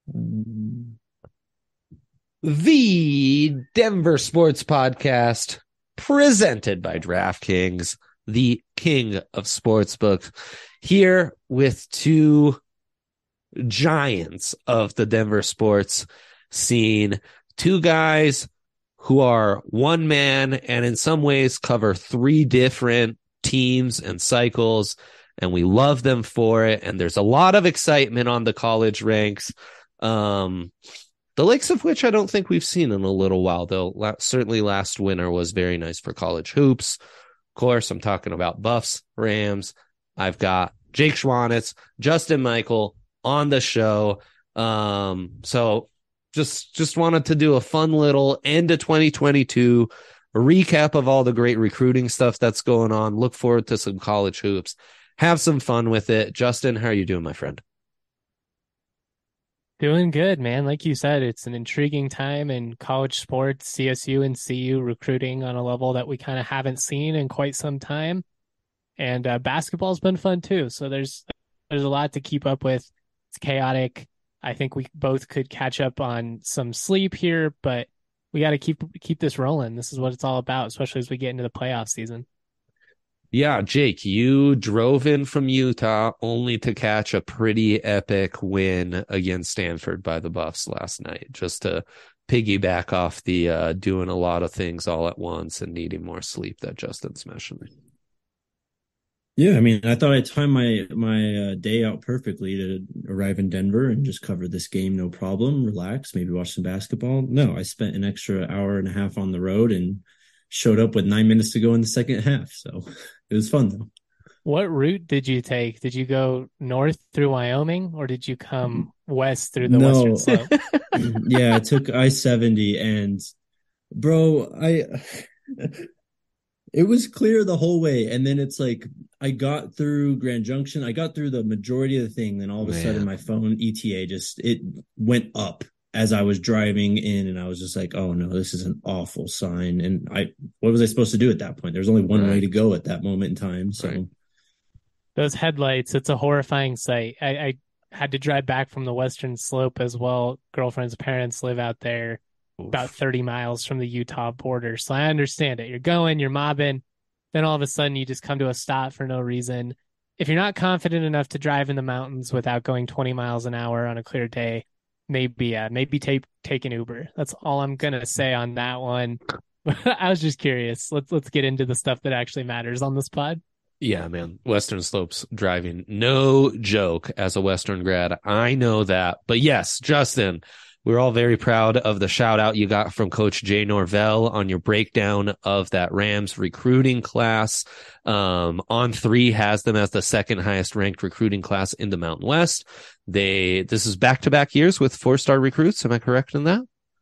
The Denver Sports Podcast, presented by DraftKings, the king of sportsbooks, here with two giants of the Denver sports scene, two guys who are one man and in some ways cover three different teams and cycles, and we love them for it. And there's a lot of excitement on the college ranks. The likes of which I don't think we've seen in a little while, though. Certainly last winter was very nice for college hoops. Of course, I'm talking about Buffs, Rams. I've got Jake Schwanitz, Justin Michael on the show. So just wanted to do a fun little end of 2022, a recap of all the great recruiting stuff that's going on. Look forward to some college hoops. Have some fun with it. Justin, how are you doing, my friend? Doing good, man. Like you said, it's an intriguing time in college sports, CSU and CU recruiting on a level that we kind of haven't seen in quite some time. And basketball's been fun too. So there's a lot to keep up with. It's chaotic. I think we both could catch up on some sleep here, but we got to keep this rolling. This is what it's all about, especially as we get into the playoff season. Yeah, Jake, you drove in from Utah only to catch a pretty epic win against Stanford by the Buffs last night, just to piggyback off the doing a lot of things all at once and needing more sleep that Justin's mentioning. Yeah, I mean, I thought I timed my day out perfectly to arrive in Denver and just cover this game, no problem, relax, maybe watch some basketball. No, I spent an extra hour and a half on the road and showed up with 9 minutes to go in the second half. So it was fun though. What route did you take? Did you go north through Wyoming or did you come west through the No, Western Slope? yeah, I took I-70 and bro, it was clear the whole way. And then it's like I got through Grand Junction, I got through the majority of the thing, then all of a sudden my phone ETA it went up as I was driving in, and I was just like, oh no, this is an awful sign. And what was I supposed to do at that point? There's only one way to go at that moment in time. So Those headlights, it's a horrifying sight. I had to drive back from the Western Slope as well. Girlfriend's parents live out there about 30 miles from the Utah border. So I understand it. You're mobbing. Then all of a sudden you just come to a stop for no reason. If you're not confident enough to drive in the mountains without going 20 miles an hour on a clear day, maybe take an Uber. That's all I'm going to say on that one. I was just curious. Let's get into the stuff that actually matters on this pod. Yeah, man. Western Slopes driving, no joke as a Western grad. I know that. But yes, Justin, we're all very proud of the shout out you got from Coach Jay Norvell on your breakdown of that Rams recruiting class. On3 has them as the second highest ranked recruiting class in the Mountain West. This is back-to-back years with 4-star recruits. Am I correct in that?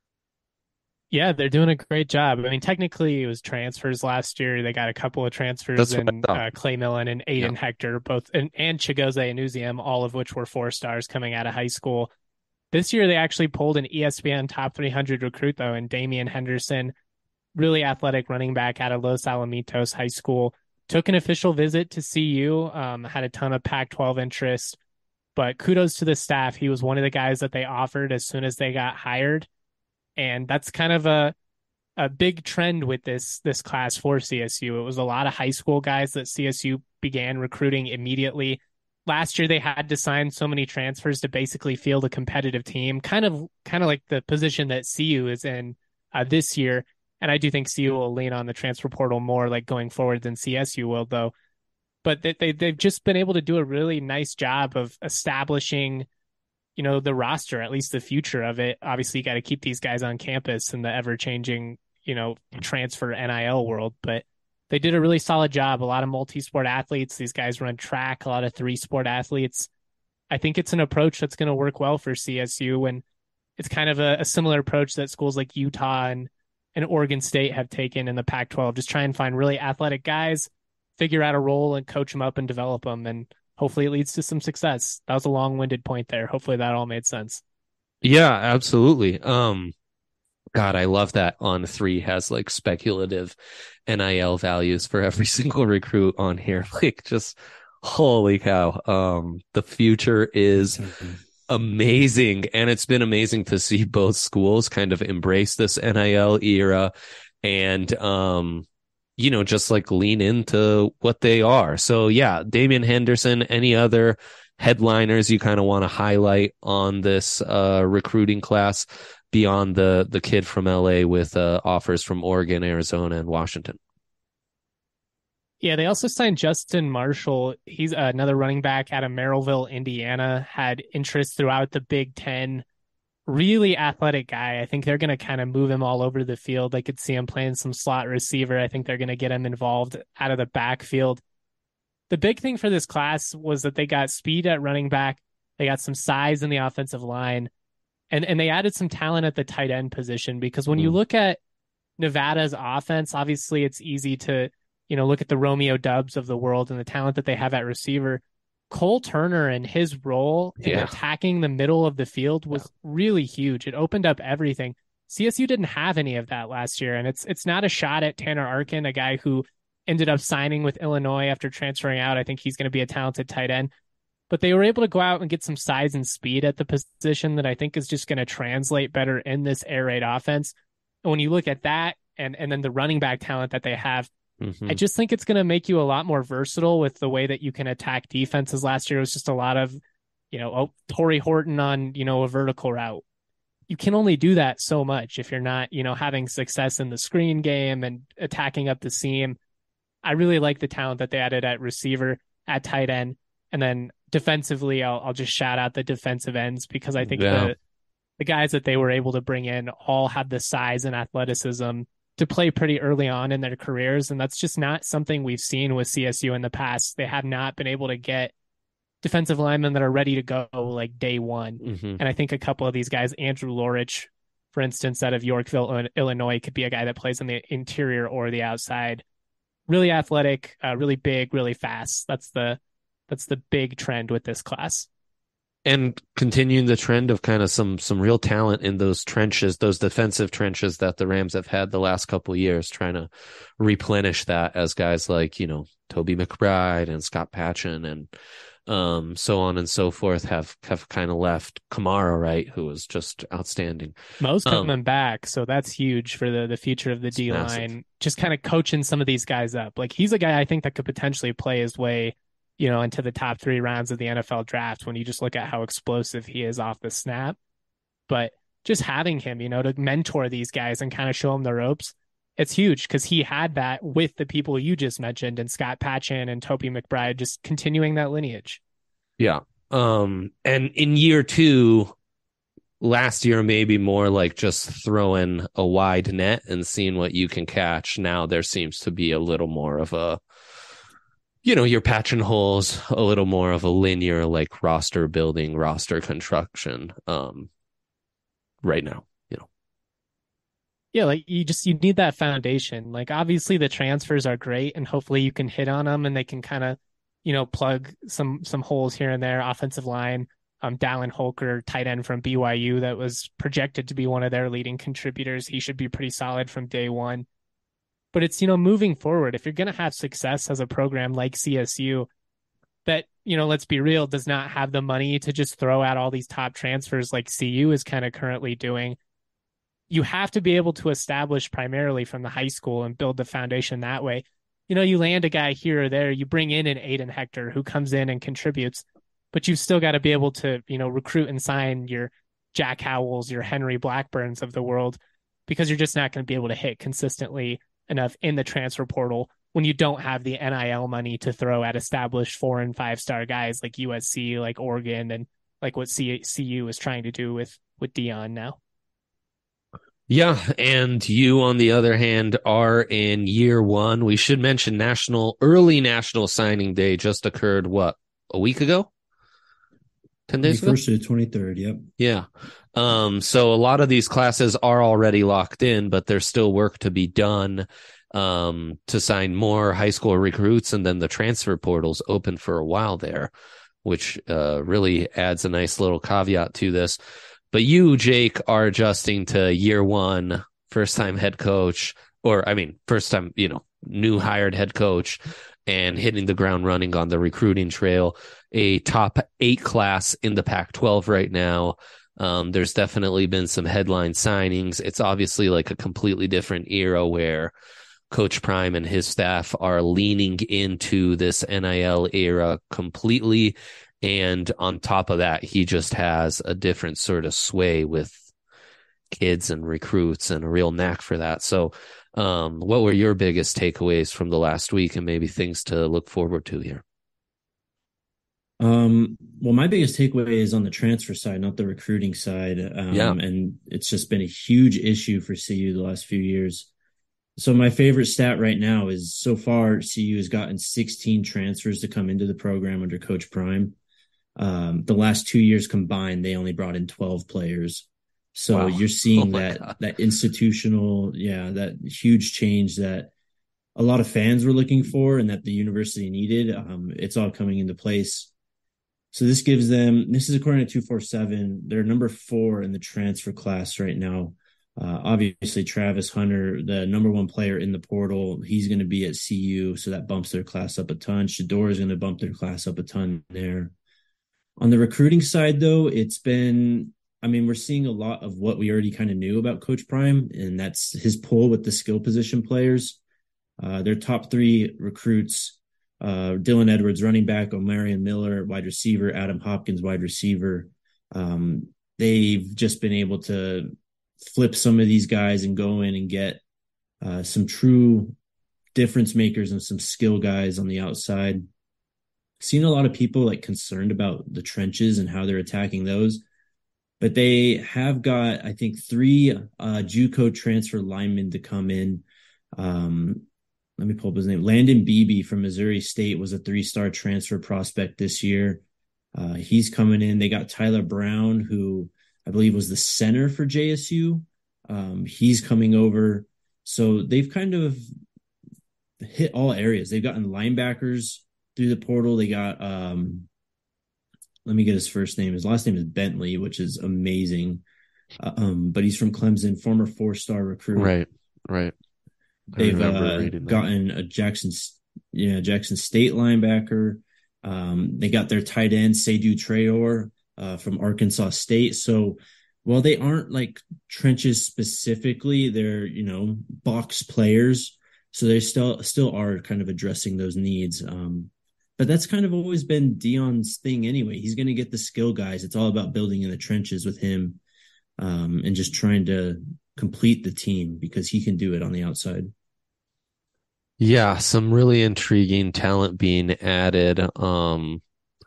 Yeah, they're doing a great job. I mean, technically it was transfers last year. They got a couple of transfers in Clay Millen and Aiden Hector, both and Chigozie Anuziam, all of which were 4-stars coming out of high school. This year, they actually pulled an ESPN top 300 recruit, though, and Damian Henderson, really athletic running back out of Los Alamitos High School, took an official visit to CU, had a ton of Pac-12 interest, but kudos to the staff. He was one of the guys that they offered as soon as they got hired, and that's kind of a big trend with this class for CSU. It was a lot of high school guys that CSU began recruiting immediately. Last year, they had to sign so many transfers to basically field a competitive team, kind of like the position that CU is in this year. And I do think CU will lean on the transfer portal more like going forward than CSU will, though. But they've just been able to do a really nice job of establishing, the roster, at least the future of it. Obviously, you got to keep these guys on campus in the ever-changing, transfer NIL world. But they did a really solid job. A lot of multi-sport athletes. These guys run track, a lot of 3-sport athletes. I think it's an approach that's going to work well for CSU. And it's kind of a similar approach that schools like Utah and Oregon State have taken in the Pac-12. Just try and find really athletic guys, figure out a role and coach them up and develop them. And hopefully it leads to some success. That was a long-winded point there. Hopefully that all made sense. Yeah, absolutely. God, I love that On3 has like speculative NIL values for every single recruit on here. Like just holy cow. The future is amazing. And it's been amazing to see both schools kind of embrace this NIL era and, just like lean into what they are. So yeah, Damian Henderson, any other headliners you kind of want to highlight on this recruiting class beyond the kid from LA with offers from Oregon, Arizona, and Washington? Yeah, they also signed Justin Marshall. He's another running back out of Merrillville, Indiana, had interest throughout the Big Ten. Really athletic guy. I think they're going to kind of move him all over the field. I could see him playing some slot receiver. I think they're going to get him involved out of the backfield. The big thing for this class was that they got speed at running back. They got some size in the offensive line, and they added some talent at the tight end position, because when you look at Nevada's offense, obviously it's easy to look at the Romeo Dubs of the world and the talent that they have at receiver. Cole Turner and his role in attacking the middle of the field was really huge. It opened up everything. CSU didn't have any of that last year, and it's not a shot at Tanner Arkin, a guy who ended up signing with Illinois after transferring out. I think he's going to be a talented tight end. But they were able to go out and get some size and speed at the position that I think is just going to translate better in this air raid offense. And when you look at that and then the running back talent that they have, I just think it's going to make you a lot more versatile with the way that you can attack defenses. Last year, it was just a lot of, Torrey Horton on, a vertical route. You can only do that so much if you're not, having success in the screen game and attacking up the seam. I really like the talent that they added at receiver, at tight end. And then defensively, I'll just shout out the defensive ends, because I think the guys that they were able to bring in all have the size and athleticism to play pretty early on in their careers. And that's just not something we've seen with CSU in the past. They have not been able to get defensive linemen that are ready to go like day one. And I think a couple of these guys, Andrew Lorich, for instance, out of Yorkville, Illinois, could be a guy that plays on the interior or the outside. Really athletic, really big, really fast. That's the big trend with this class. And continuing the trend of kind of some real talent in those trenches, those defensive trenches that the Rams have had the last couple of years, trying to replenish that as guys like, Toby McBride and Scott Patchen and so on and so forth have kind of left. Kamara, right, who was just outstanding. Mo's coming back, so that's huge for the future of the D-line. Just kind of coaching some of these guys up. Like, he's a guy I think that could potentially play his way into the top 3 rounds of the NFL draft when you just look at how explosive he is off the snap. But just having him, to mentor these guys and kind of show them the ropes, it's huge, because he had that with the people you just mentioned and Scott Patchen and Toby McBride, just continuing that lineage. Yeah. And in year 2, last year, maybe more like just throwing a wide net and seeing what you can catch. Now there seems to be a little more of a, you're patching holes, a little more of a linear, like roster building, roster construction right now, Yeah, like you need that foundation. Like, obviously the transfers are great and hopefully you can hit on them and they can kind of, plug some holes here and there. Offensive line, Dallin Holker, tight end from BYU, that was projected to be one of their leading contributors. He should be pretty solid from day one. But it's, moving forward, if you're going to have success as a program like CSU that, let's be real, does not have the money to just throw out all these top transfers like CU is kind of currently doing, you have to be able to establish primarily from the high school and build the foundation that way. You land a guy here or there, you bring in an Aiden Hector who comes in and contributes, but you've still got to be able to, recruit and sign your Jack Howells, your Henry Blackburns of the world, because you're just not going to be able to hit consistently enough in the transfer portal when you don't have the NIL money to throw at established 4- and 5-star guys like USC, like Oregon, and like what CU is trying to do with Deion now. Yeah, and you, on the other hand, are in year 1. We should mention early National Signing Day just occurred, a week ago? 10 days ago? 1st to the 23rd, yep. Yeah. So a lot of these classes are already locked in, but there's still work to be done to sign more high school recruits, and then the transfer portal's open for a while there, which really adds a nice little caveat to this. But you, Jake, are adjusting to year 1, first-time head coach, first time, new hired head coach. and hitting the ground running on the recruiting trail. A top 8 class in the Pac-12 right now. There's definitely been some headline signings. It's obviously like a completely different era where Coach Prime and his staff are leaning into this NIL era completely. And on top of that, he just has a different sort of sway with kids and recruits and a real knack for that. So what were your biggest takeaways from the last week and maybe things to look forward to here? Well, my biggest takeaway is on the transfer side, not the recruiting side. And it's just been a huge issue for CU the last few years. So my favorite stat right now is so far CU has gotten 16 transfers to come into the program under Coach Prime. The last 2 years combined, they only brought in 12 players. So wow. You're seeing that institutional, that huge change that a lot of fans were looking for and that the university needed. It's all coming into place. So this gives them, this is according to 247, they're number 4 in the transfer class right now. Obviously, Travis Hunter, the number 1 player in the portal, he's going to be at CU, so that bumps their class up a ton. Shedeur is going to bump their class up a ton there. On the recruiting side, though, it's been, we're seeing a lot of what we already kind of knew about Coach Prime, and that's his pull with the skill position players. Their top 3 recruits, Dylan Edwards, running back, Omarion Miller, wide receiver, Adam Hopkins, wide receiver. They've just been able to flip some of these guys and go in and get some true difference makers and some skill guys on the outside. Seen a lot of people like concerned about the trenches and how they're attacking those, but they have got, I think, 3 JUCO transfer linemen to come in. Let me pull up his name. Landon Beebe from Missouri State was a 3-star transfer prospect this year. He's coming in. They got Tyler Brown, who I believe was the center for JSU. He's coming over. So they've kind of hit all areas. They've gotten linebackers through the portal. They got, let me get his first name. His last name is Bentley, which is amazing. But he's from Clemson, former 4-star recruit. Right. They've gotten a Jackson State linebacker. They got their tight end, Seydou Traore, from Arkansas State. So while they aren't like trenches specifically, they're, box players. So they still are kind of addressing those needs. But that's kind of always been Deion's thing anyway. He's going to get the skill guys. It's all about building in the trenches with him, and just trying to complete the team because he can do it on the outside. Yeah, some really intriguing talent being added to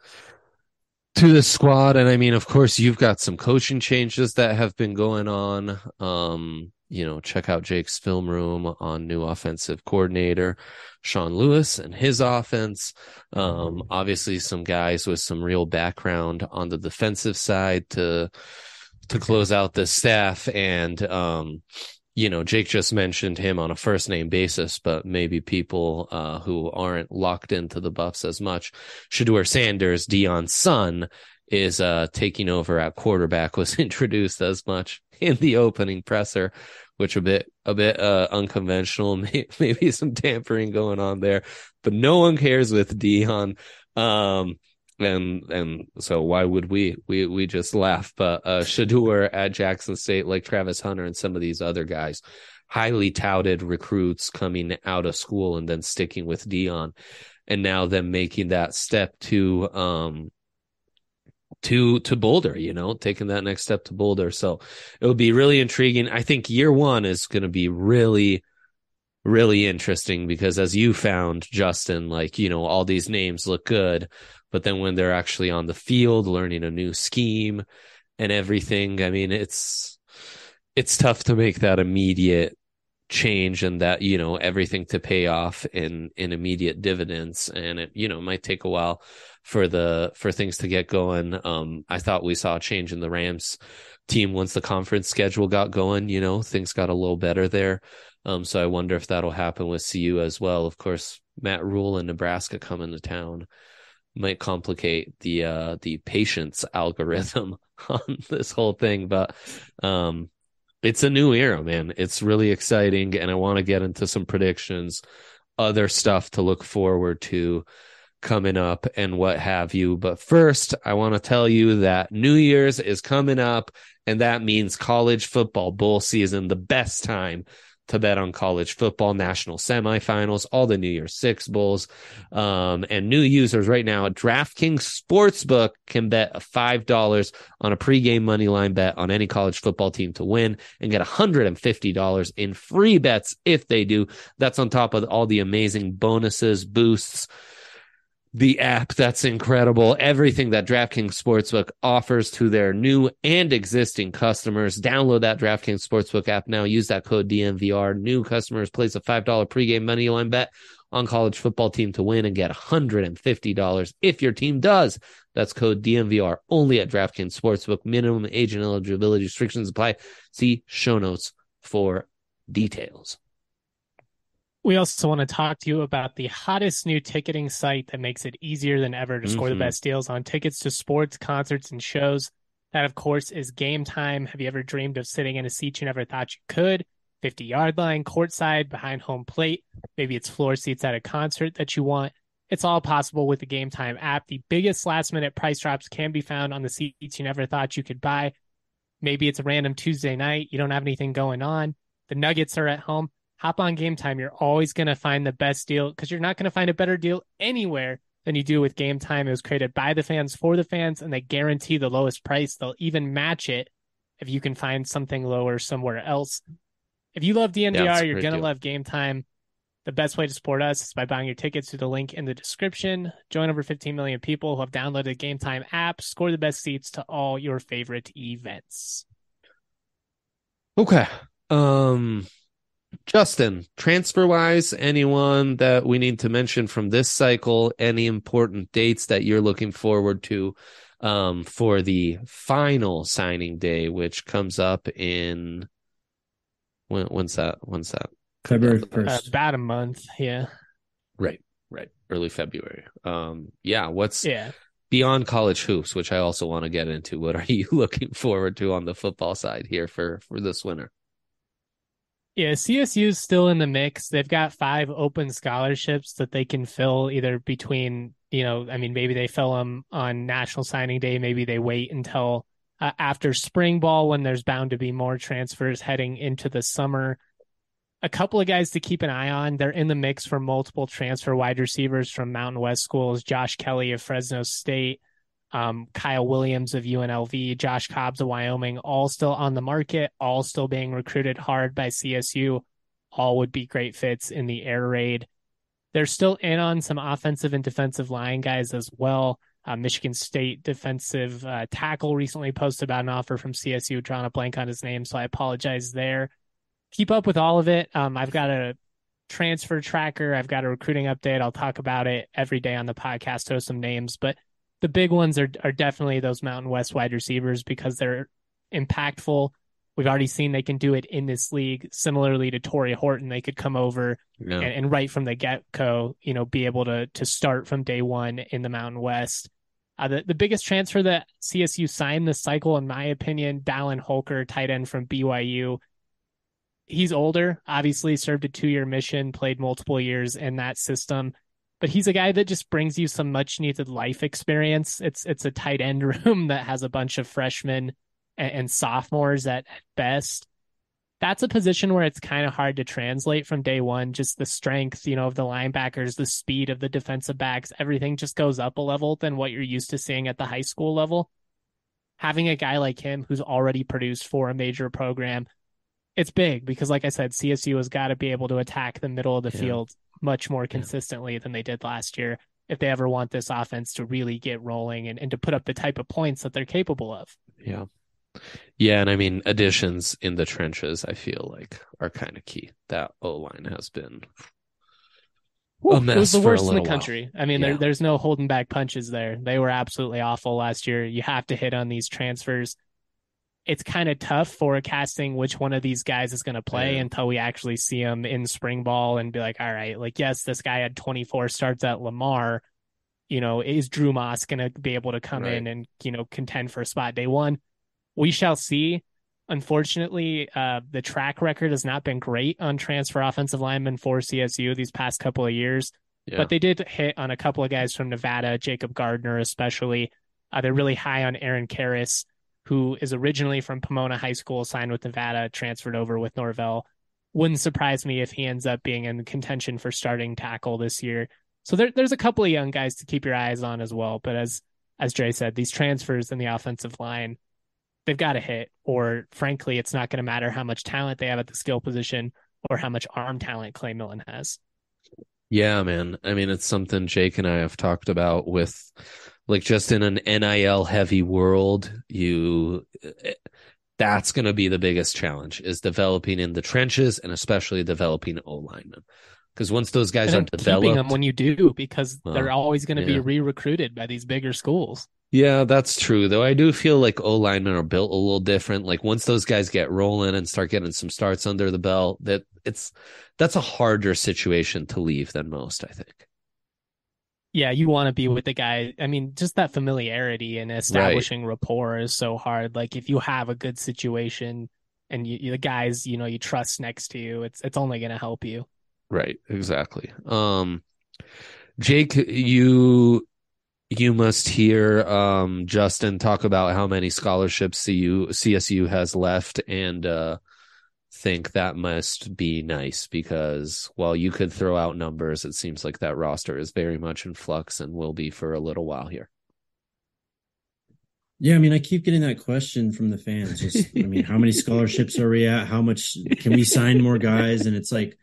the squad. And of course, you've got some coaching changes that have been going on. Check out Jake's film room on new offensive coordinator, Sean Lewis, and his offense. Obviously some guys with some real background on the defensive side to close out the staff. And, Jake just mentioned him on a first name basis, but maybe people who aren't locked into the Buffs as much. Shedeur Sanders, Deion's son, is taking over at quarterback, was introduced as much in the opening presser, which a bit unconventional, maybe some tampering going on there, but no one cares with Deion. And so why would we just laugh? But Shedeur at Jackson State, like Travis Hunter and some of these other guys, highly touted recruits coming out of school and then sticking with Deion, and now them making that step to Boulder, taking that next step to Boulder. So it will be really intriguing. I think year 1 is going to be really, really interesting because, as you found, Justin, all these names look good, but then when they're actually on the field, learning a new scheme and everything, it's tough to make that immediate change and that, everything to pay off in immediate dividends. And it, might take a while for things to get going. I thought we saw a change in the Rams team once the conference schedule got going, things got a little better there. So I wonder if that'll happen with CU as well. Of course, Matt Rule and Nebraska coming to town might complicate the patience algorithm on this whole thing, but it's a new era, man. It's really exciting, and I want to get into some predictions other stuff to look forward to coming up and what have you. But first, I want to tell you that New Year's is coming up, and that means college football bowl season, the best time to bet on college football, national semifinals, all the New Year's Six bowls. And new users right now at DraftKings Sportsbook can bet $5 on a pregame money line bet on any college football team to win and get $150 in free bets if they do. That's on top of all the amazing bonuses, boosts, the app that's incredible, everything that DraftKings Sportsbook offers to their new and existing customers. Download that DraftKings Sportsbook app now. Use that code DNVR. New customers place a $5 pregame money line bet on college football team to win and get $150 if your team does. That's code DNVR only at DraftKings Sportsbook. Minimum age and eligibility restrictions apply. See show notes for details. We also want to talk to you about the hottest new ticketing site that makes it easier than ever to score the best deals on tickets to sports, concerts, and shows. That, of course, is Game Time. Have you ever dreamed of sitting in a seat you never thought you could? 50-yard line, courtside, behind home plate. Maybe it's floor seats at a concert that you want. It's all possible with the Game Time app. The biggest last-minute price drops can be found on the seats you never thought you could buy. Maybe it's a random Tuesday night. You don't have anything going on. The Nuggets are at home. Hop on Game Time. You're always going to find the best deal because you're not going to find a better deal anywhere than you do with Game Time. It was created by the fans for the fans, and they guarantee the lowest price. They'll even match it if you can find something lower somewhere else. If you love DNVR, you're going to love Game Time. The best way to support us is by buying your tickets through the link in the description. Join over 15 million people who have downloaded the Game Time app. Score the best seats to all your favorite events. Okay. Justin, transfer-wise, anyone that we need to mention from this cycle, any important dates that you're looking forward to for the final signing day, which comes up in when's that? February 1st. About a month, yeah. Right. Early February. What's beyond college hoops, which I also want to get into. What are you looking forward to on the football side here for this winter? Yeah, CSU is still in the mix. They've got 5 open scholarships that they can fill either between, maybe they fill them on National Signing Day. Maybe they wait until after spring ball when there's bound to be more transfers heading into the summer. A couple of guys to keep an eye on. They're in the mix for multiple transfer wide receivers from Mountain West schools. Josh Kelly of Fresno State, Kyle Williams of UNLV, Josh Cobbs of Wyoming, all still on the market, all still being recruited hard by CSU. All would be great fits in the air raid. They're still in on some offensive and defensive line guys as well. Michigan State defensive tackle recently posted about an offer from CSU, drawing a blank on his name, so I apologize there. Keep up with all of it. I've got a transfer tracker. I've got a recruiting update. I'll talk about it every day on the podcast, throw some names, but the big ones are definitely those Mountain West wide receivers because they're impactful. We've already seen they can do it in this league. Similarly to Torrey Horton, they could come over and right from the get-go, be able to start from day one in the Mountain West. The biggest transfer that CSU signed this cycle, in my opinion, Dallin Holker, tight end from BYU. He's older, obviously served a 2-year mission, played multiple years in that system. But he's a guy that just brings you some much needed life experience. It's a tight end room that has a bunch of freshmen and sophomores at best. That's a position where it's kind of hard to translate from day one. Just the strength, of the linebackers, the speed of the defensive backs, everything just goes up a level than what you're used to seeing at the high school level. Having a guy like him who's already produced for a major program, it's big because, like I said, CSU has got to be able to attack the middle of the field much more consistently than they did last year if they ever want this offense to really get rolling and to put up the type of points that they're capable of. Yeah, and additions in the trenches, I feel like, are kind of key. That O-line has been a mess. It was the worst in the while. country. There's no holding back punches there. They were absolutely awful last year. You have to hit on these transfers. It's kind of tough forecasting which one of these guys is going to play until we actually see them in spring ball and be like, all right, yes, this guy had 24 starts at Lamar. Is Drew Moss going to be able to come in and, contend for a spot day one? We shall see. Unfortunately, the track record has not been great on transfer offensive linemen for CSU these past couple of years, but they did hit on a couple of guys from Nevada, Jacob Gardner especially. They're really high on Aaron Karras, who is originally from Pomona High School, signed with Nevada, transferred over with Norvell. Wouldn't surprise me if he ends up being in contention for starting tackle this year. So there's a couple of young guys to keep your eyes on as well. But as Dre said, these transfers in the offensive line, they've got to hit, or frankly, it's not going to matter how much talent they have at the skill position or how much arm talent Clay Millen has. Yeah, man. I mean, it's something Jake and I have talked about with, like, just in an NIL heavy world, that's going to be the biggest challenge, is developing in the trenches and especially developing O linemen. Because once those guys are developed, keeping them when you do, because they're always going to be re-recruited by these bigger schools. Yeah, that's true. Though I do feel like O linemen are built a little different. Like once those guys get rolling and start getting some starts under the belt, that's a harder situation to leave than most, I think. Yeah, you want to be with the guy. I mean, just that familiarity and establishing rapport is so hard. Like if you have a good situation and the guys, you trust next to you, it's only going to help you. Right, exactly. Jake, you must hear Justin talk about how many scholarships CSU has left, and think that must be nice, because while you could throw out numbers, it seems like that roster is very much in flux and will be for a little while here. Yeah, I mean, I keep getting that question from the fans. I mean, how many scholarships are we at? How much can we sign more guys? And it's like,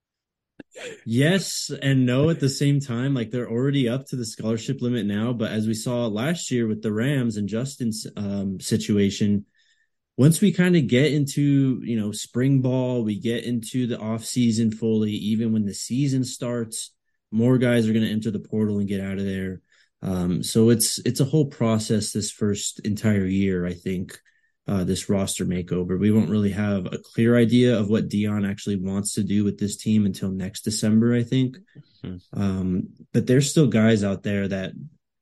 yes and no at the same time. Like they're already up to the scholarship limit now, but as we saw last year with the Rams and Justin's situation, once we kind of get into spring ball, we get into the off season fully, even when the season starts, more guys are going to enter the portal and get out of there. So it's a whole process this first entire year, I think. This roster makeover. We won't really have a clear idea of what Dion actually wants to do with this team until next December, I think. But there's still guys out there that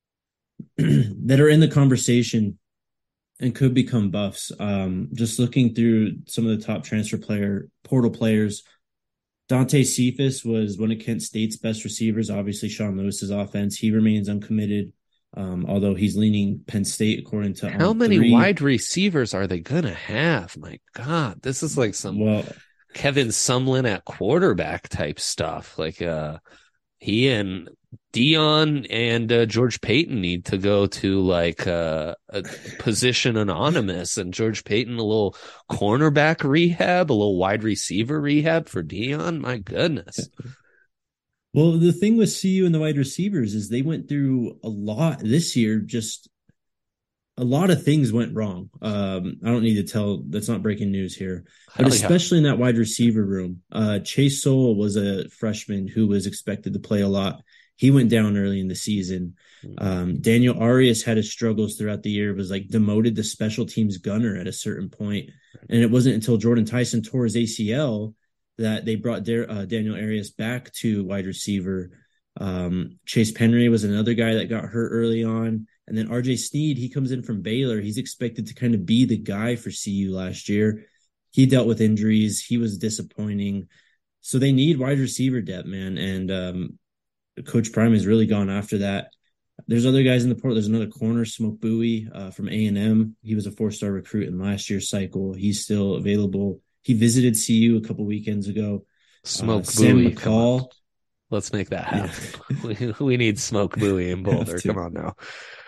that are in the conversation and could become buffs. Just looking through some of the top portal players, Dante Cephas was one of Kent State's best receivers. Obviously, Sean Lewis's offense. He remains uncommitted. Although he's leaning Penn State according to how many wide receivers are they gonna have? My God, this is like some Kevin Sumlin at quarterback type stuff. Like he and Dion and George Payton need to go to like a position anonymous, and George Payton a little cornerback rehab, a little wide receiver rehab for Dion. My goodness. Well, the thing with CU and the wide receivers is they went through a lot this year. Just a lot of things went wrong. I don't need to tell. That's not breaking news here. But especially in that wide receiver room. Chase Sowell was a freshman who was expected to play a lot. He went down early in the season. Daniel Arias had his struggles throughout the year, was like demoted to special teams gunner at a certain point. And it wasn't until Jordan Tyson tore his ACL that they brought Daniel Arias back to wide receiver. Chase Penry was another guy that got hurt early on. And then RJ Sneed, he comes in from Baylor. He's expected to kind of be the guy for CU last year. He dealt with injuries. He was disappointing. So they need wide receiver depth, man. And Coach Prime has really gone after that. There's other guys in the portal. There's another corner, Smoke Bowie from A&M. He was a 4-star recruit in last year's cycle. He's still available. He visited CU a couple weekends ago. Smoke Sam Bowie. McCall. Let's make that happen. Yeah. we need Smoke Bowie in Boulder. Come on now.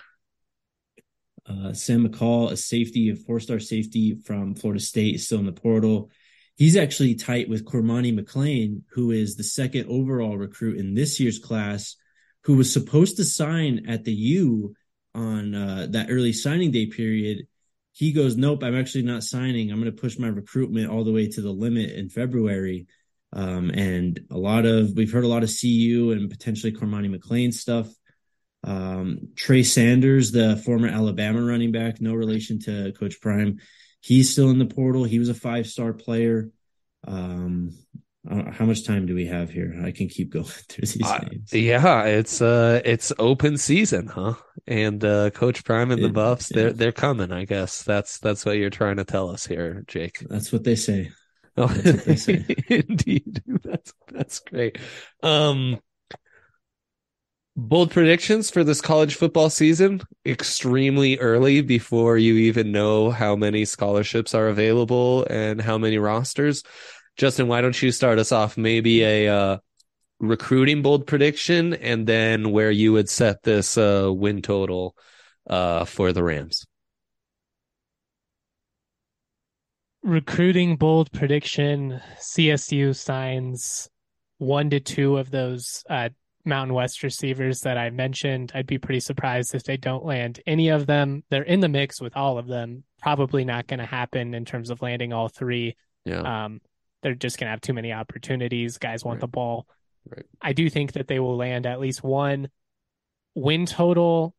Sam McCall, a 4-star safety from Florida State, is still in the portal. He's actually tight with Cormani McLean, who is the second overall recruit in this year's class, who was supposed to sign at the U on that early signing day period. He goes, nope, I'm actually not signing. I'm going to push my recruitment all the way to the limit in February. And we've heard a lot of CU and potentially Cormani McLean stuff. Trey Sanders, the former Alabama running back, no relation to Coach Prime. He's still in the portal. He was a 5-star player. How much time do we have here? I can keep going through these names. Yeah, it's open season, huh? And Coach Prime and the Buffs, they're coming, I guess. That's what you're trying to tell us here, Jake. That's what they say. Oh, that's what they say. Indeed. That's great. Bold predictions for this college football season, extremely early before you even know how many scholarships are available and how many rosters. Justin, why don't you start us off? Maybe a recruiting bold prediction, and then where you would set this win total for the Rams. Recruiting bold prediction, CSU signs 1 to 2 of those Mountain West receivers that I mentioned. I'd be pretty surprised if they don't land any of them. They're in the mix with all of them. Probably not going to happen in terms of landing all 3. Yeah. They're just going to have too many opportunities. Guys want the ball. Right. I do think that they will land at least 1. Win total,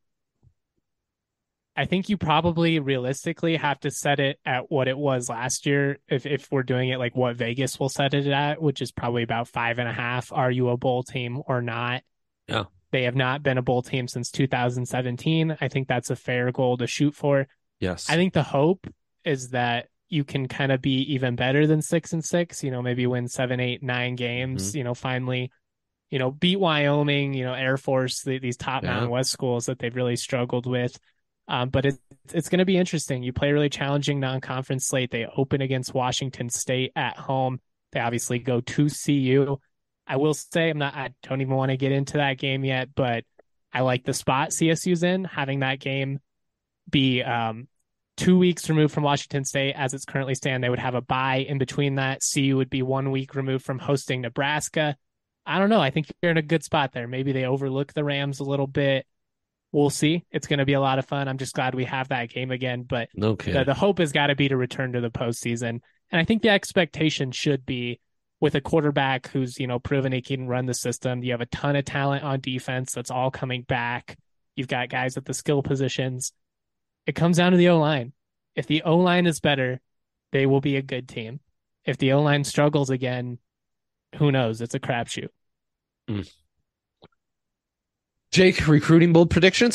I think you probably realistically have to set it at what it was last year. If we're doing it like what Vegas will set it at, which is probably about 5.5. Are you a bowl team or not? Yeah. They have not been a bowl team since 2017. I think that's a fair goal to shoot for. Yes. I think the hope is that you can kind of be even better than 6-6, maybe win 7, 8, 9 games, finally, beat Wyoming, Air Force, these top Mountain West schools that they've really struggled with. But it's going to be interesting. You play a really challenging non-conference slate. They open against Washington State at home. They obviously go to CU. I will say I don't even want to get into that game yet, but I like the spot CSU's in, having that game be 2 weeks removed from Washington State as it's currently stand. They would have a bye in between that. CU would be 1 week removed from hosting Nebraska. I don't know. I think you're in a good spot there. Maybe they overlook the Rams a little bit. We'll see. It's going to be a lot of fun. I'm just glad we have that game again. But the hope has got to be to return to the postseason. And I think the expectation should be with a quarterback who's, proven he can run the system. You have a ton of talent on defense that's all coming back. You've got guys at the skill positions. It comes down to the O-line. If the O-line is better, they will be a good team. If the O-line struggles again, who knows? It's a crapshoot. Jake, recruiting bold predictions?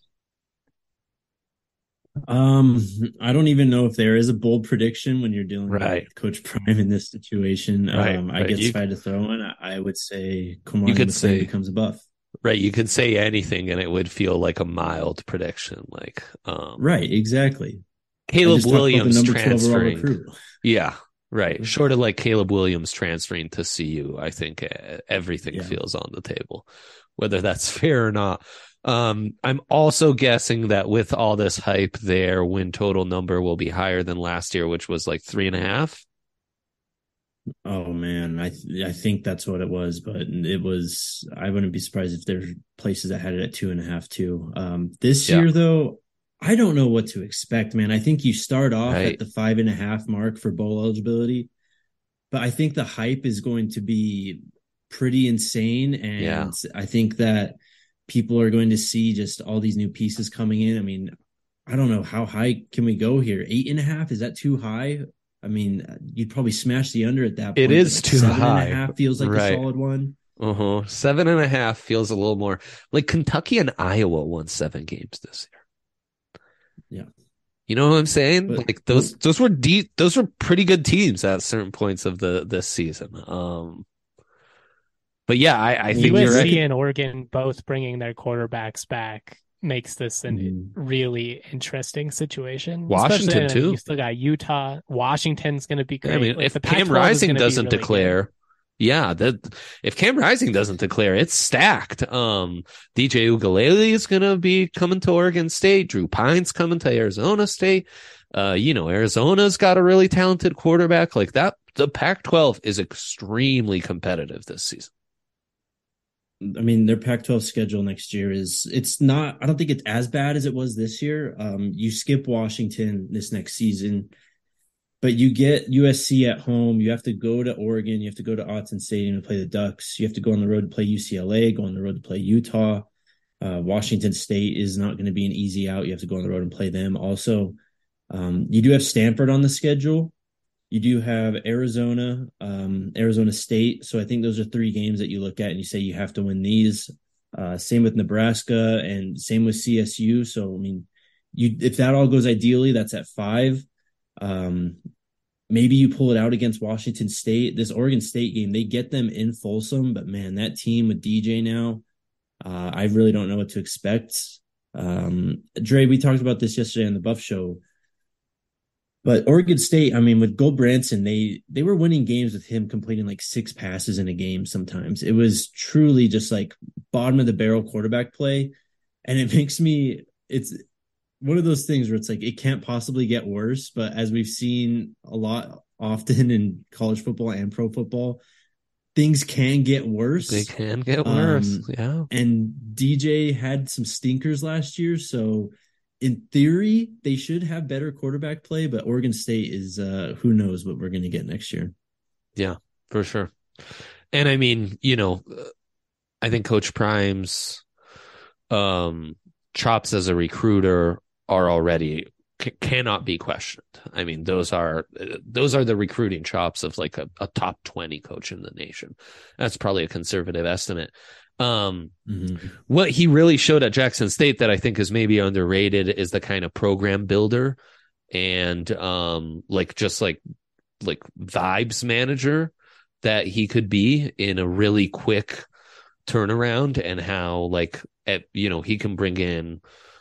I don't even know if there is a bold prediction when you're dealing with Coach Prime in this situation. I guess if I had to throw one, I would say Kamari McLean becomes a Buff. Right, you could say anything and it would feel like a mild prediction. Right, exactly. Caleb Williams transferring. Yeah, right. Short of like Caleb Williams transferring to CU, I think everything feels on the table, whether that's fair or not. I'm also guessing that with all this hype, their win total number will be higher than last year, which was like 3.5. Oh man, I think that's what it was, but it was. I wouldn't be surprised if there's places that had it at 2.5 too. This year though, I don't know what to expect, man. I think you start off at the 5.5 mark for bowl eligibility, but I think the hype is going to be pretty insane, and I think that people are going to see just all these new pieces coming in. I mean, I don't know, how high can we go here? 8.5, is that too high? I mean, you'd probably smash the under at that point. It is too high. 7.5 feels like a solid one. 7.5 feels a little more like Kentucky and Iowa won 7 games this year. Yeah. You know what I'm saying? But, like those were deep. Those were pretty good teams at certain points of this season. But yeah, I think USC and Oregon both bringing their quarterbacks back makes this a really interesting situation. Washington too. You still got Utah. Washington's going to be great. I mean, if Cam Rising doesn't declare, if Cam Rising doesn't declare, it's stacked. DJ Uiagalelei is going to be coming to Oregon State. Drew Pine's coming to Arizona State. Arizona's got a really talented quarterback like that. The Pac-12 is extremely competitive this season. I mean, their Pac-12 schedule next year it's not, I don't think it's as bad as it was this year. You skip Washington this next season, but you get USC at home. You have to go to Oregon. You have to go to Autzen Stadium to play the Ducks. You have to go on the road to play UCLA, go on the road to play Utah. Washington State is not going to be an easy out. You have to go on the road and play them also. You do have Stanford on the schedule. You do have Arizona, Arizona State. So I think those are 3 games that you look at and you say you have to win these. Same with Nebraska and same with CSU. So I mean, if that all goes ideally, that's at 5. Maybe you pull it out against Washington State. This Oregon State game, they get them in Folsom, but man, that team with DJ now, I really don't know what to expect. Dre, we talked about this yesterday on the Buff Show, but Oregon State, I mean, with Gulbranson, they were winning games with him completing like 6 passes in a game sometimes. It was truly just like bottom of the barrel quarterback play. And it's one of those things where it's like it can't possibly get worse. But as we've seen a lot often in college football and pro football, things can get worse. They can get worse. Yeah. And DJ had some stinkers last year. So in theory, they should have better quarterback play, but Oregon State is who knows what we're going to get next year. Yeah, for sure. And I mean, I think Coach Prime's chops as a recruiter are already cannot be questioned. I mean, those are the recruiting chops of like a top 20 coach in the nation. That's probably a conservative estimate. What he really showed at Jackson State that I think is maybe underrated is the kind of program builder and like vibes manager that he could be in a really quick turnaround, and how he can bring in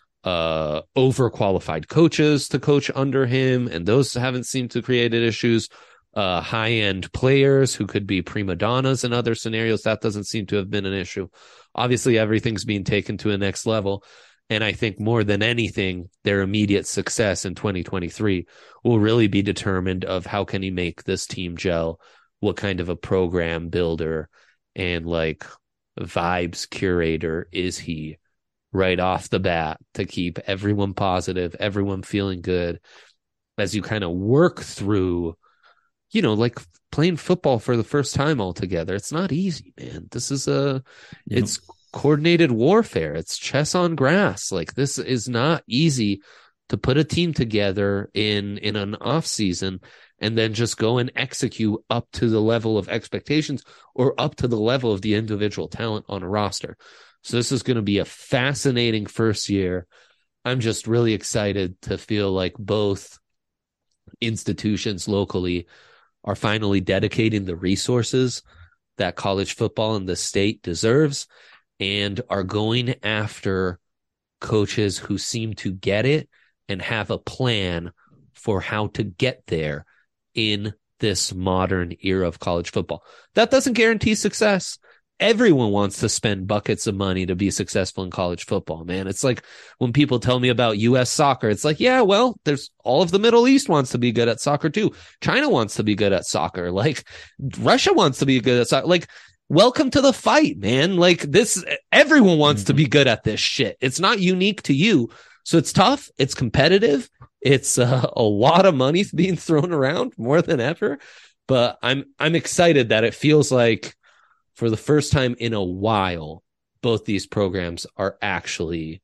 overqualified coaches to coach under him, and those haven't seemed to create issues. High-end players who could be prima donnas in other scenarios, that doesn't seem to have been an issue. Obviously, everything's being taken to a next level, and I think more than anything, their immediate success in 2023 will really be determined of how can he make this team gel, what kind of a program builder and like vibes curator is he right off the bat to keep everyone positive, everyone feeling good as you kind of work through, like playing football for the first time all together. It's not easy, man. This is it's coordinated warfare. It's chess on grass. Like, this is not easy to put a team together in an off season and then just go and execute up to the level of expectations or up to the level of the individual talent on a roster. So this is going to be a fascinating first year. I'm just really excited to feel like both institutions locally are finally dedicating the resources that college football in the state deserves and are going after coaches who seem to get it and have a plan for how to get there in this modern era of college football. That doesn't guarantee success. Everyone wants to spend buckets of money to be successful in college football, man. It's like when people tell me about U.S. soccer, it's like, yeah, well, there's all of the Middle East wants to be good at soccer too. China wants to be good at soccer. Like, Russia wants to be good at soccer. Like, welcome to the fight, man. Like, this, everyone wants to be good at this shit. It's not unique to you. So it's tough. It's competitive. It's a lot of money being thrown around more than ever. But I'm excited that it feels like, for the first time in a while, both these programs are actually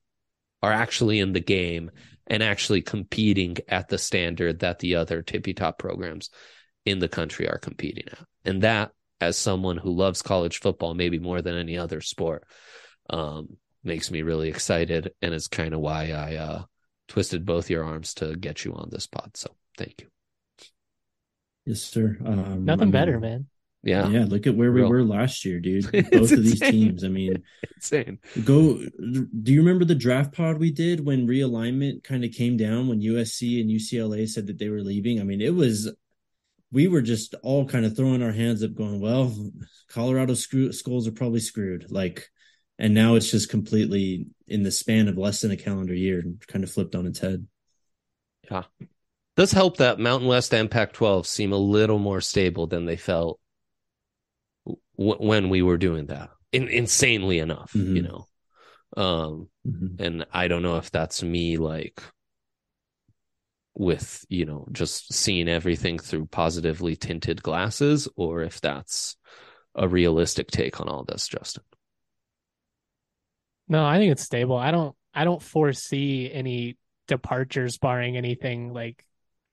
in the game and actually competing at the standard that the other tippy top programs in the country are competing at. And that, as someone who loves college football, maybe more than any other sport, makes me really excited. And it's kind of why I twisted both your arms to get you on this pod. So thank you. Yes, sir. Nothing better, man. Yeah. Look at where we were last year, dude. Both of these teams. I mean, insane. Do you remember the draft pod we did when realignment kind of came down when USC and UCLA said that they were leaving? I mean, we were just all kind of throwing our hands up going, well, Colorado schools are probably screwed. Like, and now it's just completely in the span of less than a calendar year kind of flipped on its head. Yeah. Does help that Mountain West and Pac-12 seem a little more stable than they felt when we were doing that, insanely enough, and I don't know if that's me, like, with, just seeing everything through positively tinted glasses, or if that's a realistic take on all this, Justin. No, I think it's stable. I don't foresee any departures, barring anything like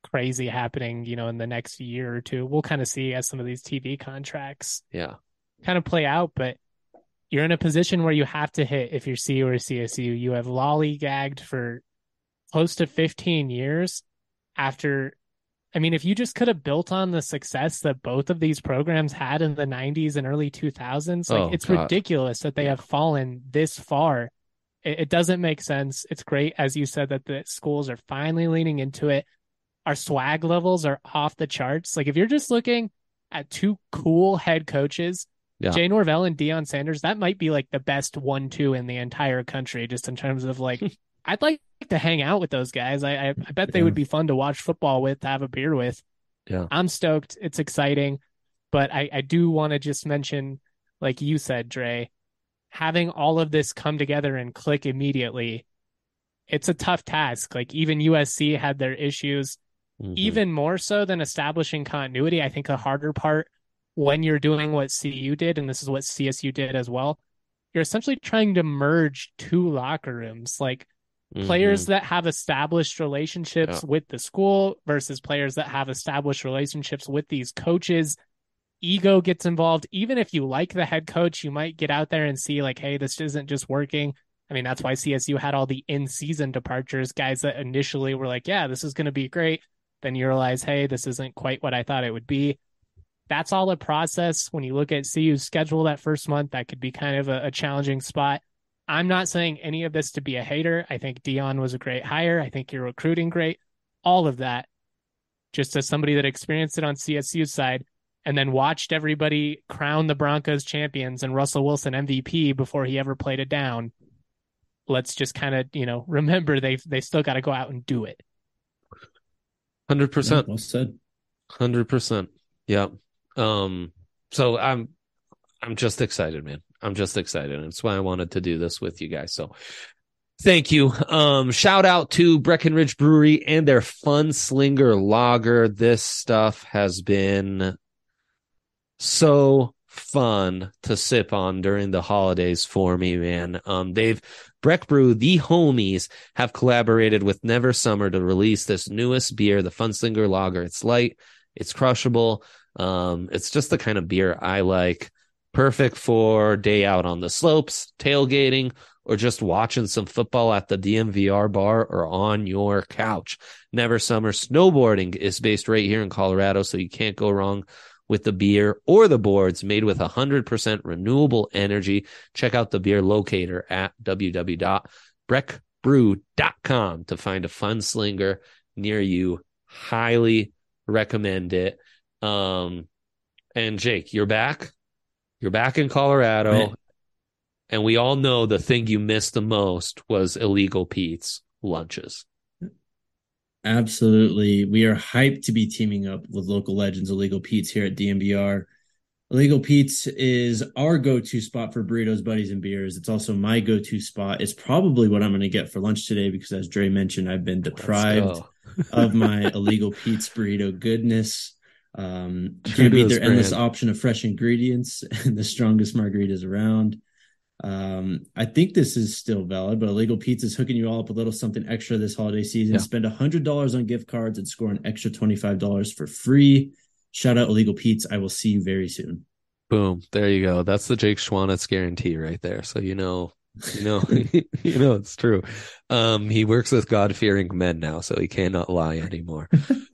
crazy happening, in the next year or two. We'll kind of see as some of these TV contracts kind of play out, but you're in a position where you have to hit if you're CU or CSU. You have lollygagged for close to 15 years after. I mean, if you just could have built on the success that both of these programs had in the 90s and early 2000s, it's ridiculous that they have fallen this far. It doesn't make sense. It's great, as you said, that the schools are finally leaning into it. Our swag levels are off the charts. Like, if you're just looking at two cool head coaches, Jay Norvell and Deion Sanders, that might be like the best 1-2 in the entire country, just in terms of like, I'd like to hang out with those guys. I bet they would be fun to watch football with, to have a beer with. Yeah. I'm stoked. It's exciting. But I do want to just mention, like you said, Dre, having all of this come together and click immediately, it's a tough task. Like, even USC had their issues, even more so than establishing continuity. I think a harder part when you're doing what CU did, and this is what CSU did as well, you're essentially trying to merge two locker rooms, like players that have established relationships with the school versus players that have established relationships with these coaches. Ego gets involved. Even if you like the head coach, you might get out there and see like, hey, this isn't just working. I mean, that's why CSU had all the in-season departures, guys that initially were like, yeah, this is going to be great. Then you realize, hey, this isn't quite what I thought it would be. That's all a process. When you look at CU's schedule that first month, that could be kind of a challenging spot. I'm not saying any of this to be a hater. I think Deion was a great hire. I think you're recruiting great. All of that. Just as somebody that experienced it on CSU's side and then watched everybody crown the Broncos champions and Russell Wilson MVP before he ever played it down, let's just kind of, remember they still got to go out and do it. 100%. Well said. 100%. Yeah. So I'm just excited, man. I'm just excited. And that's why I wanted to do this with you guys. So thank you. Shout out to Breckenridge Brewery and their Fun Slinger Lager. This stuff has been so fun to sip on during the holidays for me, man. Breck Brew, the homies, have collaborated with Never Summer to release this newest beer, the Fun Slinger Lager. It's light, it's crushable. It's just the kind of beer I like. Perfect for day out on the slopes, tailgating, or just watching some football at the DMVR bar or on your couch. Never Summer Snowboarding is based right here in Colorado, so you can't go wrong with the beer or the boards, made with 100% renewable energy. Check out the beer locator at www.breckbrew.com to find a Fun Slinger near you. Highly recommend it. And Jake, you're back. You're back in Colorado. Right. And we all know the thing you missed the most was Illegal Pete's lunches. Absolutely. We are hyped to be teaming up with local legends Illegal Pete's here at DMVR. Illegal Pete's is our go-to spot for burritos, buddies, and beers. It's also my go-to spot. It's probably what I'm going to get for lunch today because, as Dre mentioned, I've been deprived of my Illegal Pete's burrito goodness. Can't beat their endless option of fresh ingredients and the strongest margaritas around. I think this is still valid, but Illegal Pete's is hooking you all up a little something extra this holiday season. Spend $100 on gift cards and score an extra $25 for free. Shout out Illegal Pete's. I will see you very soon. Boom. There you go. That's the Jake Schwanitz guarantee right there. So it's true. He works with God-fearing men now, so he cannot lie anymore.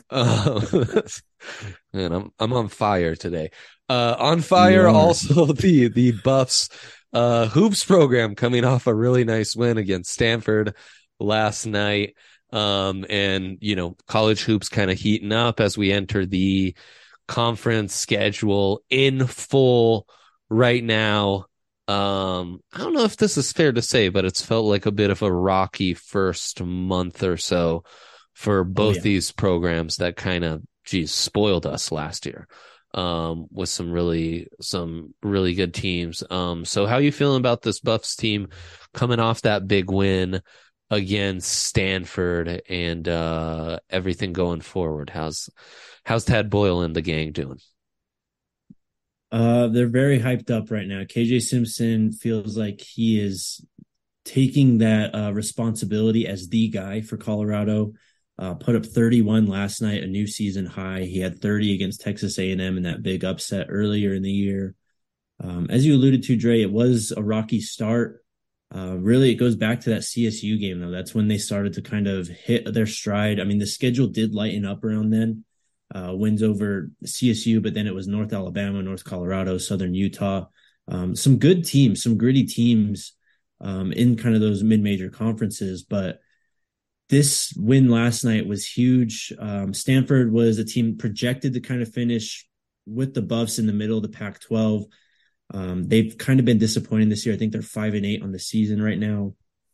Man, I'm on fire today. On fire also the Buffs hoops program coming off a really nice win against Stanford last night. And college hoops kind of heating up as we enter the conference schedule in full right now. I don't know if this is fair to say, but it's felt like a bit of a rocky first month or so for both these programs that kind of, spoiled us last year with some really good teams. So how are you feeling about this Buffs team coming off that big win against Stanford and everything going forward? How's Tad Boyle and the gang doing? They're very hyped up right now. KJ Simpson feels like he is taking that responsibility as the guy for Colorado. put up 31 last night, a new season high. He had 30 against Texas A&M in that big upset earlier in the year. As you alluded to, Dre, it was a rocky start. Really, it goes back to that CSU game, though. That's when they started to kind of hit their stride. I mean, the schedule did lighten up around then. Wins over CSU, but then it was North Alabama, North Colorado, Southern Utah. Some good teams, some gritty teams in kind of those mid-major conferences. But this win last night was huge. Stanford was a team projected to kind of finish with the Buffs in the middle of the Pac-12. They've kind of been disappointing this year. I think they're 5-8 on the season right now.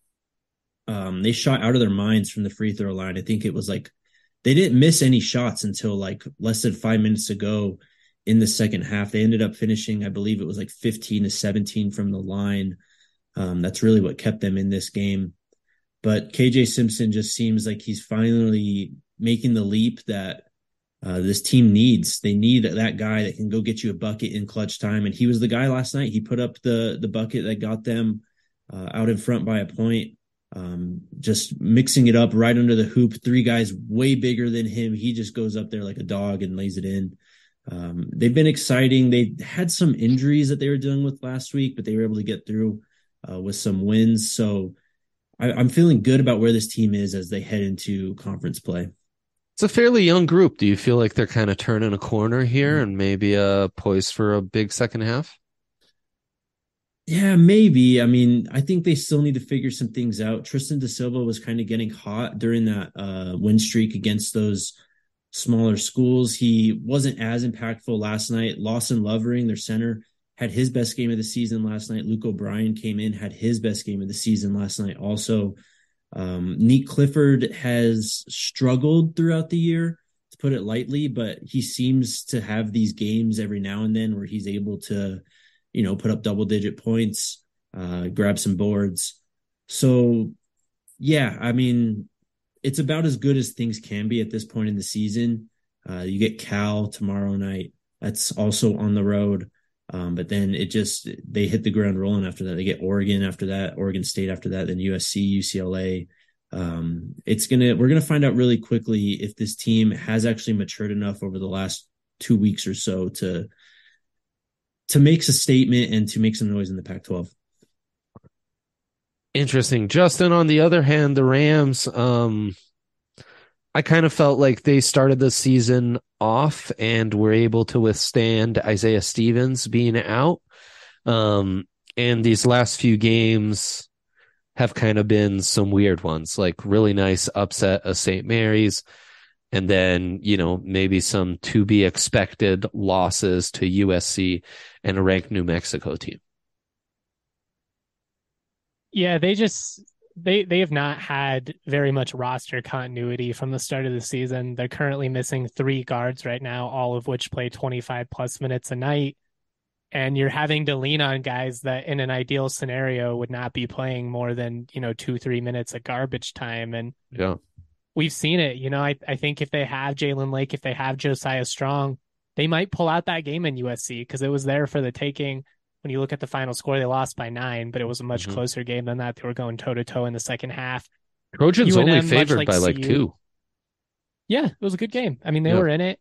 They shot out of their minds from the free throw line. I think it was like they didn't miss any shots until like less than 5 minutes ago in the second half. They ended up finishing, I believe it was like 15-17 from the line. That's really what kept them in this game. But KJ Simpson just seems like he's finally making the leap that this team needs. They need that guy that can go get you a bucket in clutch time. And he was the guy last night. He put up the bucket that got them out in front by a point. Just mixing it up right under the hoop. 3 guys way bigger than him. He just goes up there like a dog and lays it in. They've been exciting. They had some injuries that they were dealing with last week, but they were able to get through with some wins. So I'm feeling good about where this team is as they head into conference play. It's a fairly young group. Do you feel like they're kind of turning a corner here and maybe poised for a big second half? Yeah, maybe. I mean, I think they still need to figure some things out. Tristan da Silva was kind of getting hot during that win streak against those smaller schools. He wasn't as impactful last night. Lawson Lovering, their center, had his best game of the season last night. Luke O'Brien came in, had his best game of the season last night also. Nick Clifford has struggled throughout the year, to put it lightly, but he seems to have these games every now and then where he's able to, put up double-digit points, grab some boards. So, yeah, I mean, it's about as good as things can be at this point in the season. You get Cal tomorrow night. That's also on the road. But then they hit the ground rolling after that. They get Oregon after that, Oregon State after that, then USC, UCLA. We're going to find out really quickly if this team has actually matured enough over the last 2 weeks or so to make a statement and to make some noise in the Pac-12. Interesting. Justin, on the other hand, the Rams, I kind of felt like they started the season off and were able to withstand Isaiah Stevens being out. And these last few games have kind of been some weird ones, like really nice upset of St. Mary's. And then, maybe some to be expected losses to USC and a ranked New Mexico team. Yeah, they have not had very much roster continuity from the start of the season. They're currently missing 3 guards right now, all of which play 25 plus minutes a night. And you're having to lean on guys that in an ideal scenario would not be playing more than, 2-3 minutes of garbage time. And yeah, we've seen it. I think if they have Jalen Lake, if they have Josiah Strong, they might pull out that game in USC because it was there for the taking. When you look at the final score, they lost by 9, but it was a much closer game than that. They were going toe-to-toe in the second half. Trojans UNM, only favored by like 2. Yeah, it was a good game. I mean, they were in it.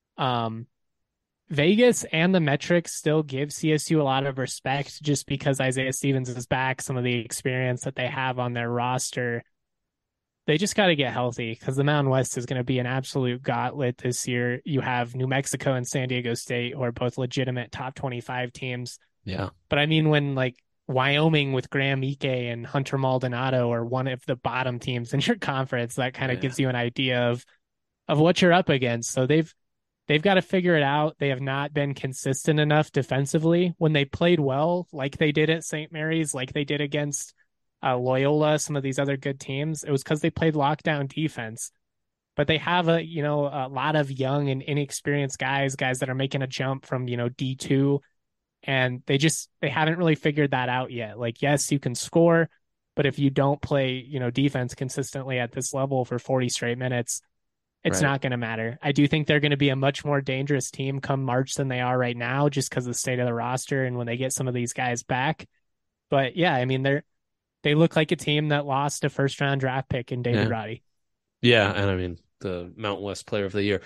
Vegas and the metrics still give CSU a lot of respect just because Isaiah Stevens is back, some of the experience that they have on their roster. They just got to get healthy because the Mountain West is going to be an absolute gauntlet this year. You have New Mexico and San Diego State, who are both legitimate top 25 teams. Yeah. But I mean, when like Wyoming with Graham Ike and Hunter Maldonado are one of the bottom teams in your conference, that kind of gives you an idea of what you're up against. So they've got to figure it out. They have not been consistent enough defensively. When they played well, like they did at St. Mary's, like they did against Loyola, some of these other good teams, it was because they played lockdown defense. But they have a lot of young and inexperienced guys that are making a jump from, D2. And they haven't really figured that out yet. Like, yes, you can score, but if you don't play, defense consistently at this level for 40 straight minutes, it's not going to matter. I do think they're going to be a much more dangerous team come March than they are right now, just because of the state of the roster and when they get some of these guys back. But yeah, I mean, they look like a team that lost a first round draft pick in David Roddy. Yeah, and I mean the Mountain West Player of the Year.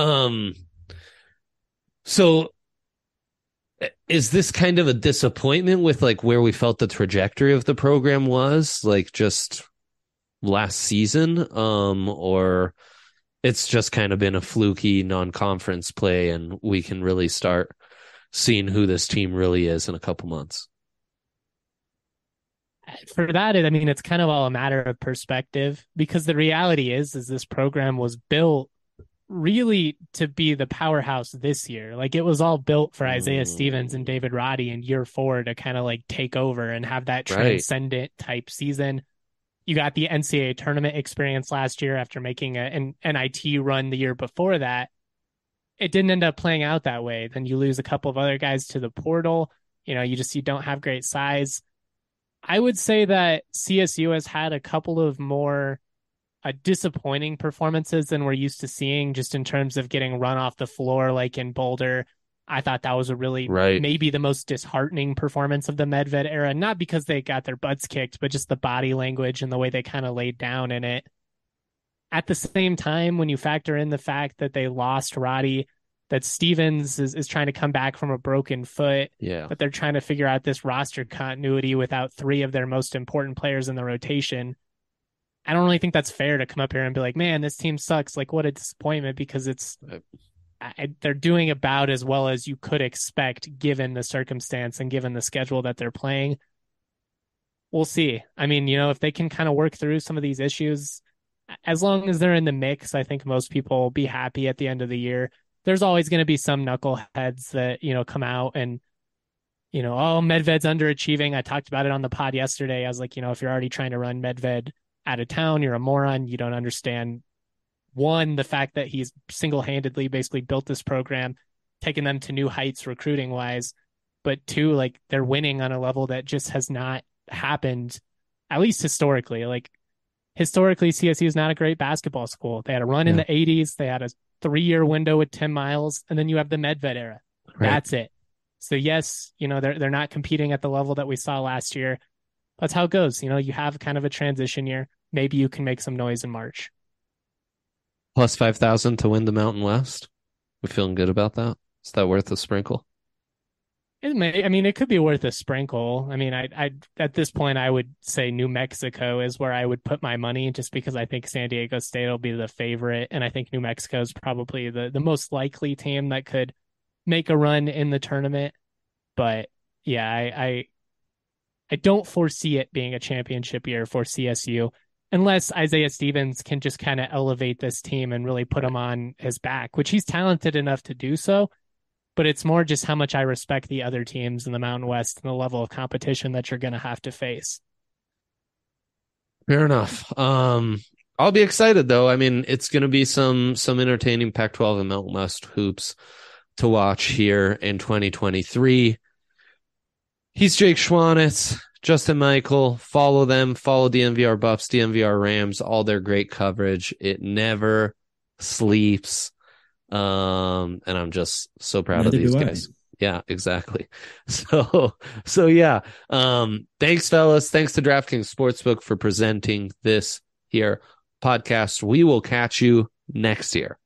So is this kind of a disappointment with like where we felt the trajectory of the program was, like just last season, or it's just kind of been a fluky non-conference play and we can really start seeing who this team really is in a couple months? For that, I mean, it's kind of all a matter of perspective, because the reality is this program was built really to be the powerhouse this year. Like, it was all built for Isaiah Stevens and David Roddy in year 4 to kind of like take over and have that transcendent type season. You got the NCAA tournament experience last year after making an NIT run the year before that. It didn't end up playing out that way. Then you lose a couple of other guys to the portal. You don't have great size. I would say that CSU has had a couple of more disappointing performances than we're used to seeing, just in terms of getting run off the floor, like in Boulder. I thought that was a really maybe the most disheartening performance of the Medved era, not because they got their butts kicked, but just the body language and the way they kind of laid down in it. At the same time, when you factor in the fact that they lost Roddy, that Stevens is trying to come back from a broken foot, but they're trying to figure out this roster continuity without 3 of their most important players in the rotation. I don't really think that's fair to come up here and be like, man, this team sucks. Like, what a disappointment, because they're doing about as well as you could expect given the circumstance and given the schedule that they're playing. We'll see. I mean, if they can kind of work through some of these issues, as long as they're in the mix, I think most people will be happy at the end of the year. There's always going to be some knuckleheads that, come out and, oh, Medved's underachieving. I talked about it on the pod yesterday. I was like, if you're already trying to run Medved out of town, you're a moron. You don't understand, one, the fact that he's single-handedly basically built this program, taken them to new heights recruiting wise, but 2, like, they're winning on a level that just has not happened, at least historically. Like, historically, CSU is not a great basketball school. They had a run in the 80s. They had a 3-year window with Tim Miles, and then you have the Medved era. That's it. So yes, they're not competing at the level that we saw last year. That's how it goes. You have kind of a transition year. Maybe you can make some noise in March. Plus 5,000 to win the Mountain West. We feeling good about that? Is that worth a sprinkle? It could be worth a sprinkle. I mean, I at this point, I would say New Mexico is where I would put my money, just because I think San Diego State will be the favorite. And I think New Mexico is probably the most likely team that could make a run in the tournament. But yeah, I don't foresee it being a championship year for CSU unless Isaiah Stevens can just kind of elevate this team and really put him on his back, which he's talented enough to do so. But it's more just how much I respect the other teams in the Mountain West and the level of competition that you're going to have to face. Fair enough. I'll be excited though. I mean, it's going to be some entertaining Pac-12 and Mountain West hoops to watch here in 2023. He's Jake Schwanitz, Justin Michael. Follow them. Follow DNVR Buffs, DNVR Rams, all their great coverage. It never sleeps. And I'm just so proud of these guys. Yeah, exactly. So yeah. Thanks, fellas. Thanks to DraftKings Sportsbook for presenting this here podcast. We will catch you next year.